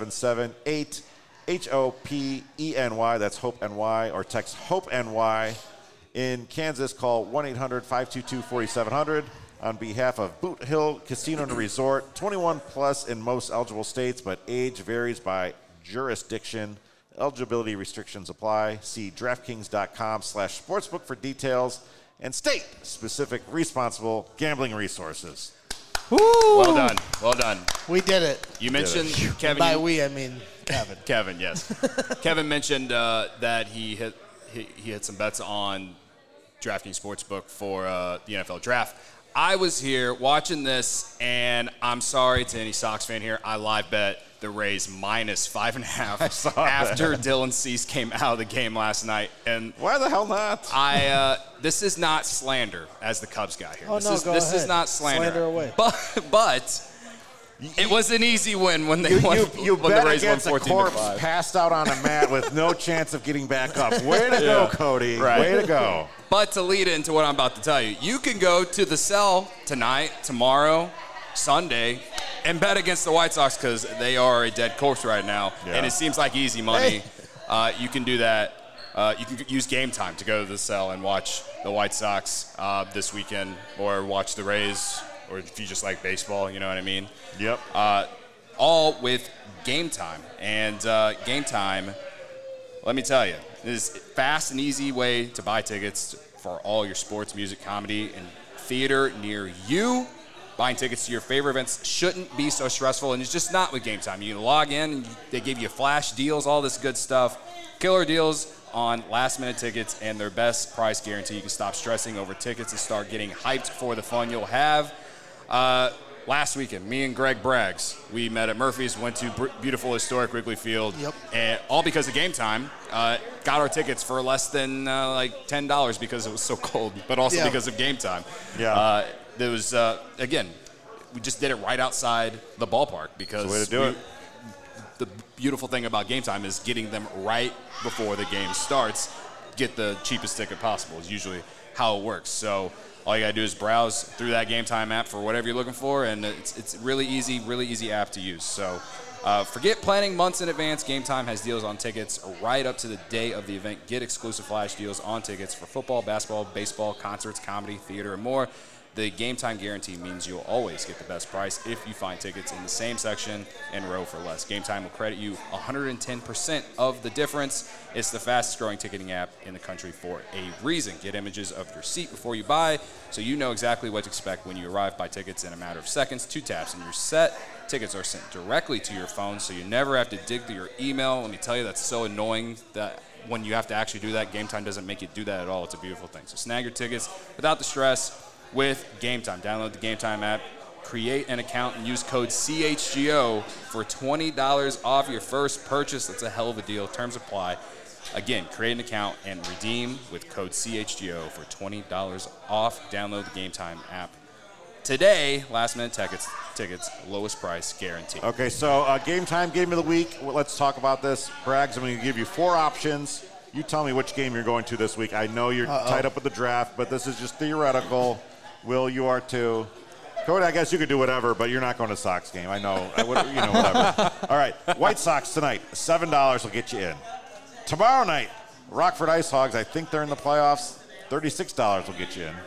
877-8-HOPENY. That's HOPE-NY. Or text HOPE-NY. In Kansas, call 1-800-522-4700. On behalf of Boot Hill Casino and Resort, 21 plus in most eligible states, but age varies by jurisdiction. Eligibility restrictions apply. See DraftKings.com/sportsbook for details and state-specific responsible gambling resources. Woo! Well done. Well done. We did it. You mentioned, Kevin. By we, I mean Kevin. Kevin, yes. Kevin mentioned that he hit some bets on DraftKings Sportsbook for the NFL Draft. I was here watching this, and I'm sorry to any Sox fan here. I live bet the Rays minus 5.5 after Dylan Cease came out of the game last night. And why the hell not? This is not slander as the Cubs guy here. Oh, This is not slander. Slander away. But It was an easy win when they You won. you when bet the Rays won against a corpse 14-5. passed out on a mat with no chance of getting back up. Way to go, Cody. Right. Way to go. But to lead into what I'm about to tell you, you can go to the Cell tonight, tomorrow, Sunday, and bet against the White Sox because they are a dead corpse right now, and it seems like easy money. You can do that. You can use Game Time to go to the Cell and watch the White Sox this weekend, or watch the Rays, or if you just like baseball, you know what I mean? Yep. All with Game Time. And Game Time, let me tell you, is a fast and easy way to buy tickets for all your sports, music, comedy, and theater near you. Buying tickets to your favorite events shouldn't be so stressful, and it's just not with Game Time. You log in, and they give you flash deals, all this good stuff. Killer deals on last-minute tickets and their best price guarantee. You can stop stressing over tickets and start getting hyped for the fun you'll have. Last weekend, me and Greg Braggs, we met at Murphy's, went to beautiful historic Wrigley Field, and all because of Game Time. Got our tickets for less than like $10 because it was so cold, but also because of Game Time. Yeah. There was, again, we just did it right outside the ballpark because That's the way to do it. The beautiful thing about Game Time is getting them right before the game starts. Get the cheapest ticket possible is usually how it works. So all you got to do is browse through that Game Time app for whatever you're looking for, and it's really easy app to use. So forget planning months in advance. Game Time has deals on tickets right up to the day of the event. Get exclusive flash deals on tickets for football, basketball, baseball, concerts, comedy, theater, and more. The Game Time guarantee means you'll always get the best price if you find tickets in the same section and row for less. Game Time will credit you 110% of the difference. It's the fastest growing ticketing app in the country for a reason. Get images of your seat before you buy so you know exactly what to expect when you arrive. Buy tickets in a matter of seconds, 2 taps, and you're set. Tickets are sent directly to your phone so you never have to dig through your email. Let me tell you, that's so annoying that when you have to actually do that, Game Time doesn't make you do that at all. It's a beautiful thing. So snag your tickets without the stress with Game Time. Download the Game Time app, create an account, and use code CHGO for $20 off your first purchase. That's a hell of a deal. Terms apply. Again, create an account and redeem with code CHGO for $20 off. Download the Game Time app today. Last minute tickets, lowest price guarantee. Okay, so Game Time, Game of the Week. Well, let's talk about this. Braggs, I'm going to give you 4 options. You tell me which game you're going to this week. I know you're tied up with the draft, but this is just theoretical. Will, you are too. Cody, I guess you could do whatever, but you're not going to Sox game. I know. Whatever. All right, White Sox tonight. $7 will get you in. Tomorrow night, Rockford Ice Hogs. I think they're in the playoffs. $36 will get you in.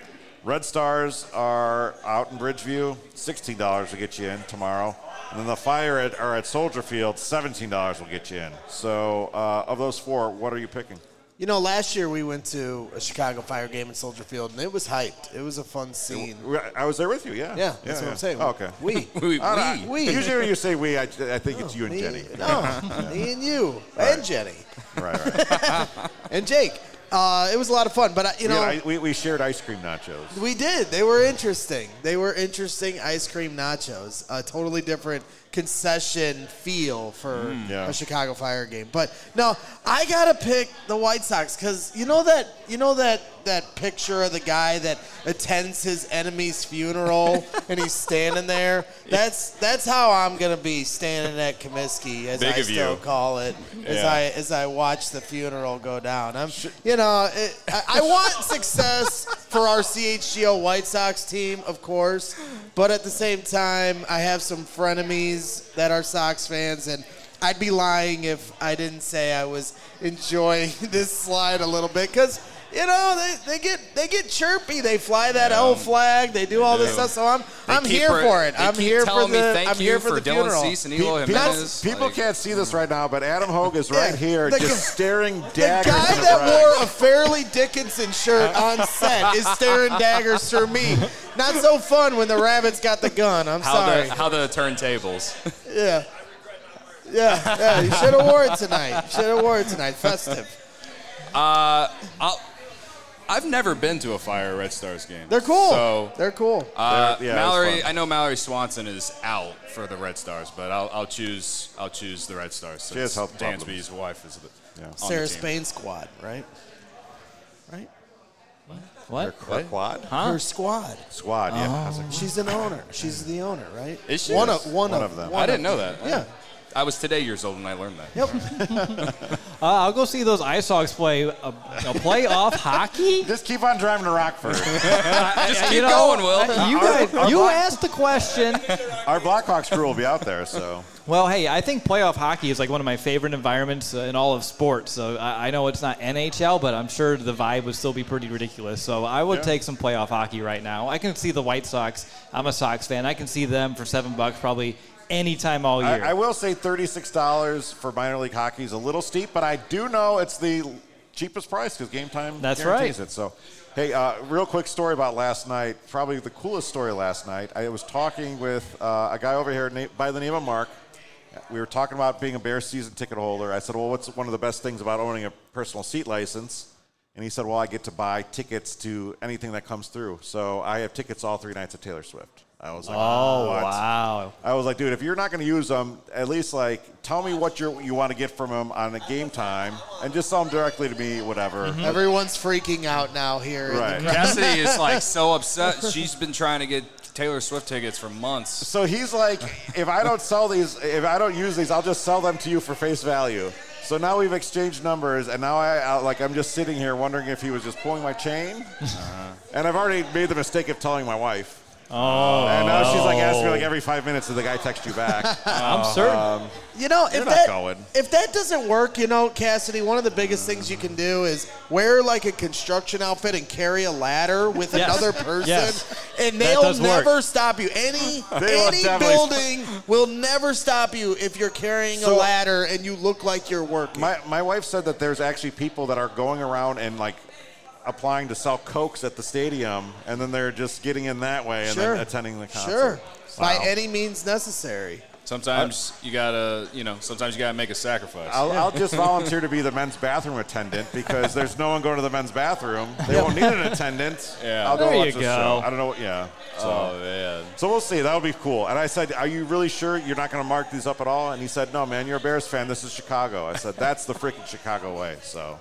Red Stars are out in Bridgeview. $16 will get you in tomorrow. And then the Fire are at Soldier Field. $17 will get you in. So of those 4, what are you picking? You know, last year we went to a Chicago Fire game in Soldier Field, and it was hyped. It was a fun scene. I was there with you, yeah. Yeah, that's what I'm saying. Oh, okay. We. Usually when you say we, I think it's you and Jenny. No, me and you. And Jenny. Right. And Jake. It was a lot of fun, but we shared ice cream nachos. We did. They were interesting. Ice cream nachos. A totally different concession feel for a Chicago Fire game. But no, I gotta pick the White Sox because you know that picture of the guy that attends his enemy's funeral and he's standing there. That's how I'm gonna be standing at Comiskey, as I still call it, as I watch the funeral go down. I want success for our CHGO White Sox team, of course, but at the same time, I have some frenemies that are Sox fans, and I'd be lying if I didn't say I was enjoying this slide a little bit because they get chirpy. They fly that L flag. They do all this stuff. So I'm here for it. I'm here for the funeral. People can't see this right now, but Adam Hogue is right here, just staring daggers. The guy that wore a Fairleigh Dickinson shirt on set is staring daggers through me. Not so fun when the Rabbits got the gun. I'm sorry. How the turntables? Yeah. You should have wore it tonight. Festive. I've never been to a Fire Red Stars game. They're cool. So, they're cool. I know Mallory Swanson is out for the Red Stars, but I'll choose the Red Stars. She has health Dansby's wife is Sarah Spain squad, right? What? Her quad? Her squad. Squad, yeah. I was like, She's an owner. She's the owner, right? Is she? One Yes, of one of them. I didn't know that. Yeah. I was today years old when I learned that. Yep. I'll go see those Ice Hogs play a playoff hockey. just keep on driving to Rockford. Just keep going, Will. You guys, you asked the question. Our Blackhawks crew will be out there, so. Well, hey, I think playoff hockey is like one of my favorite environments in all of sports. So I know it's not NHL, but I'm sure the vibe would still be pretty ridiculous. So I would take some playoff hockey right now. I can see the White Sox. I'm a Sox fan. I can see them for $7 probably anytime all year. I will say $36 for minor league hockey is a little steep, but I do know it's the cheapest price because Game Time guarantees it. So, hey, real quick story about last night. Probably the coolest story last night. I was talking with a guy over here by the name of Mark. We were talking about being a Bears season ticket holder. I said, well, what's one of the best things about owning a personal seat license? And he said, well, I get to buy tickets to anything that comes through. So I have tickets all 3 nights at Taylor Swift. I was like, oh, what? wow. I was like, dude, if you're not going to use them, at least, like, tell me what you want to get from them on a Game Time and just sell them directly to me, whatever. Mm-hmm. Everyone's freaking out now here. Right. Cassidy is like so upset. She's been trying to get Taylor Swift tickets for months. So he's like, if I don't use these, I'll just sell them to you for face value. So now we've exchanged numbers, and now I'm just sitting here wondering if he was just pulling my chain. And I've already made the mistake of telling my wife. Oh. And now she's like asking me like every 5 minutes, did the guy text you back? I'm certain. You know, You're not going. if that doesn't work, Cassidy, one of the biggest things you can do is wear like a construction outfit and carry a ladder with another person, and they'll never stop you. Any building will never stop you if you're carrying a ladder and you look like you're working. My wife said that there's actually people that are going around and like applying to sell Cokes at the stadium, and then they're just getting in that way and then attending the concert. Sure. By any means necessary. Sometimes you gotta make a sacrifice. I'll just volunteer to be the men's bathroom attendant because there's no one going to the men's bathroom. They won't need an attendant. Yeah. I'll go There watch you the go. show. I don't know. Yeah. Oh man. So we'll see. That'll be cool. And I said, are you really sure you're not going to mark these up at all? And he said, no, man, you're a Bears fan. This is Chicago. I said, that's the freaking Chicago way. So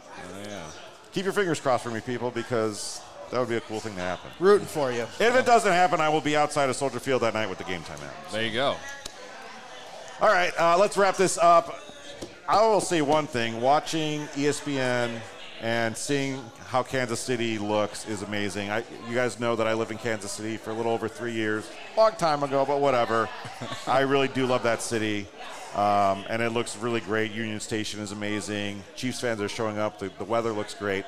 keep your fingers crossed for me, people, because that would be a cool thing to happen. Rooting for you. If it doesn't happen, I will be outside of Soldier Field that night with the Game Time app. There you go. All right, let's wrap this up. I will say one thing. Watching ESPN and seeing how Kansas City looks is amazing. You guys know that I lived in Kansas City for a little over 3 years. Long time ago, but whatever. I really do love that city. And it looks really great. Union Station is amazing. Chiefs fans are showing up. The weather looks great.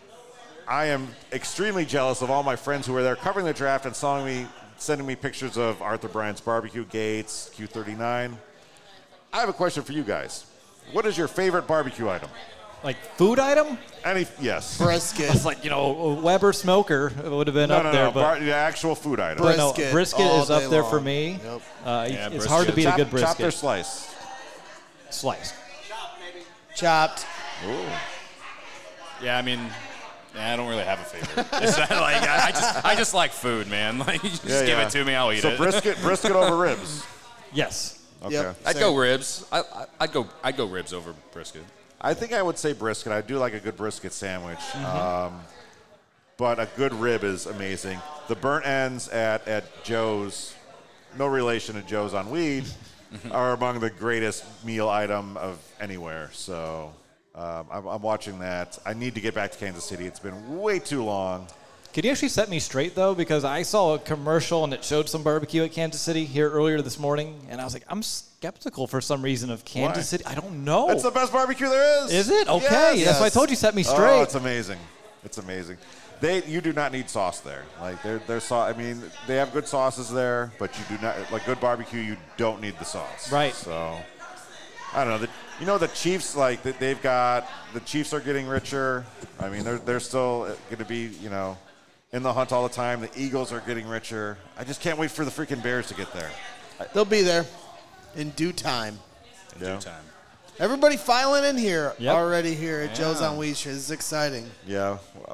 I am extremely jealous of all my friends who were there covering the draft and sending me pictures of Arthur Bryant's barbecue, Gates, Q39. I have a question for you guys. What is your favorite barbecue item? Like food item? Yes. Brisket. It's like, Weber Smoker would have been up there. But the actual food item. Brisket is up there long. for me. Yep. It's hard to beat a good brisket. Chopped or sliced? Sliced. Chopped. Ooh. Yeah, I mean, I don't really have a favorite. It's not like I just like food, man. Like you just give it to me, I'll eat it. So brisket over ribs. Yes. Okay. Yep. I'd go ribs. I'd go ribs over brisket. I think I would say brisket. I do like a good brisket sandwich. Mm-hmm. But a good rib is amazing. The burnt ends at Joe's, no relation to Joe's on Weed, are among the greatest meal item of anywhere. So I'm watching that. I need to get back to Kansas City. It's been way too long. Could you actually set me straight, though? Because I saw a commercial and it showed some barbecue at Kansas City here earlier this morning, and I was like, I'm skeptical for some reason of Kansas City. I don't know. It's the best barbecue there is. Is it? Okay. Yes. That's why I told you set me straight. Oh, it's amazing. It's amazing. You do not need sauce there. Like their sauce. I mean, they have good sauces there, but you do not like good barbecue. You don't need the sauce. Right. So I don't know. The Chiefs, like they've got the Chiefs are getting richer. I mean, they're still going to be in the hunt all the time. The Eagles are getting richer. I just can't wait for the freaking Bears to get there. They'll be there in due time. Due time. Everybody filing in here Yep. already here at Joe's on Weed. This is exciting. Yeah.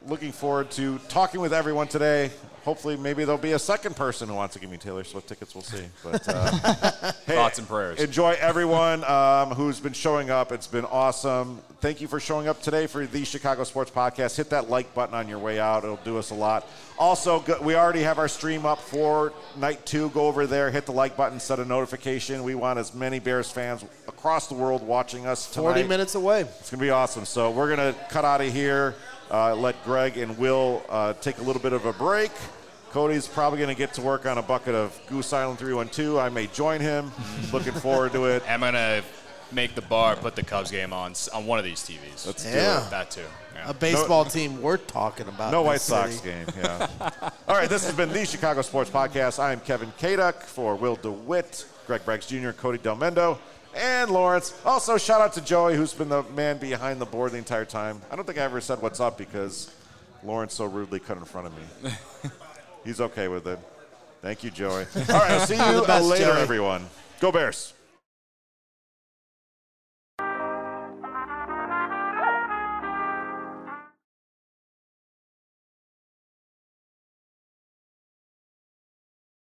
looking forward to talking with everyone today. Hopefully, maybe there'll be a second person who wants to give me Taylor Swift tickets. We'll see. But hey, thoughts and prayers. Enjoy everyone who's been showing up. It's been awesome. Thank you for showing up today for the Chicago Sports Podcast. Hit that like button on your way out. It'll do us a lot. Also, we already have our stream up for night 2. Go over there, hit the like button, set a notification. We want as many Bears fans across the world watching us tonight. 40 minutes away. It's going to be awesome. So we're going to cut out of here. Let Greg and Will take a little bit of a break. Cody's probably going to get to work on a bucket of Goose Island 312. I may join him. Looking forward to it. I'm going to make the bar put the Cubs game on one of these TVs. Let's do it. That too. Yeah. A baseball team we're talking about. No in White this Sox city. game, yeah. All right, this has been the Chicago Sports Podcast. I'm Kevin Kaduk for Will DeWitt, Greg Braggs Jr., Cody Del Mendo, and Lawrence. Also, shout out to Joey, who's been the man behind the board the entire time. I don't think I ever said what's up because Lawrence so rudely cut in front of me. He's okay with it. Thank you, Joey. All right, I'll see you the best, later, Joey. everyone. Go Bears.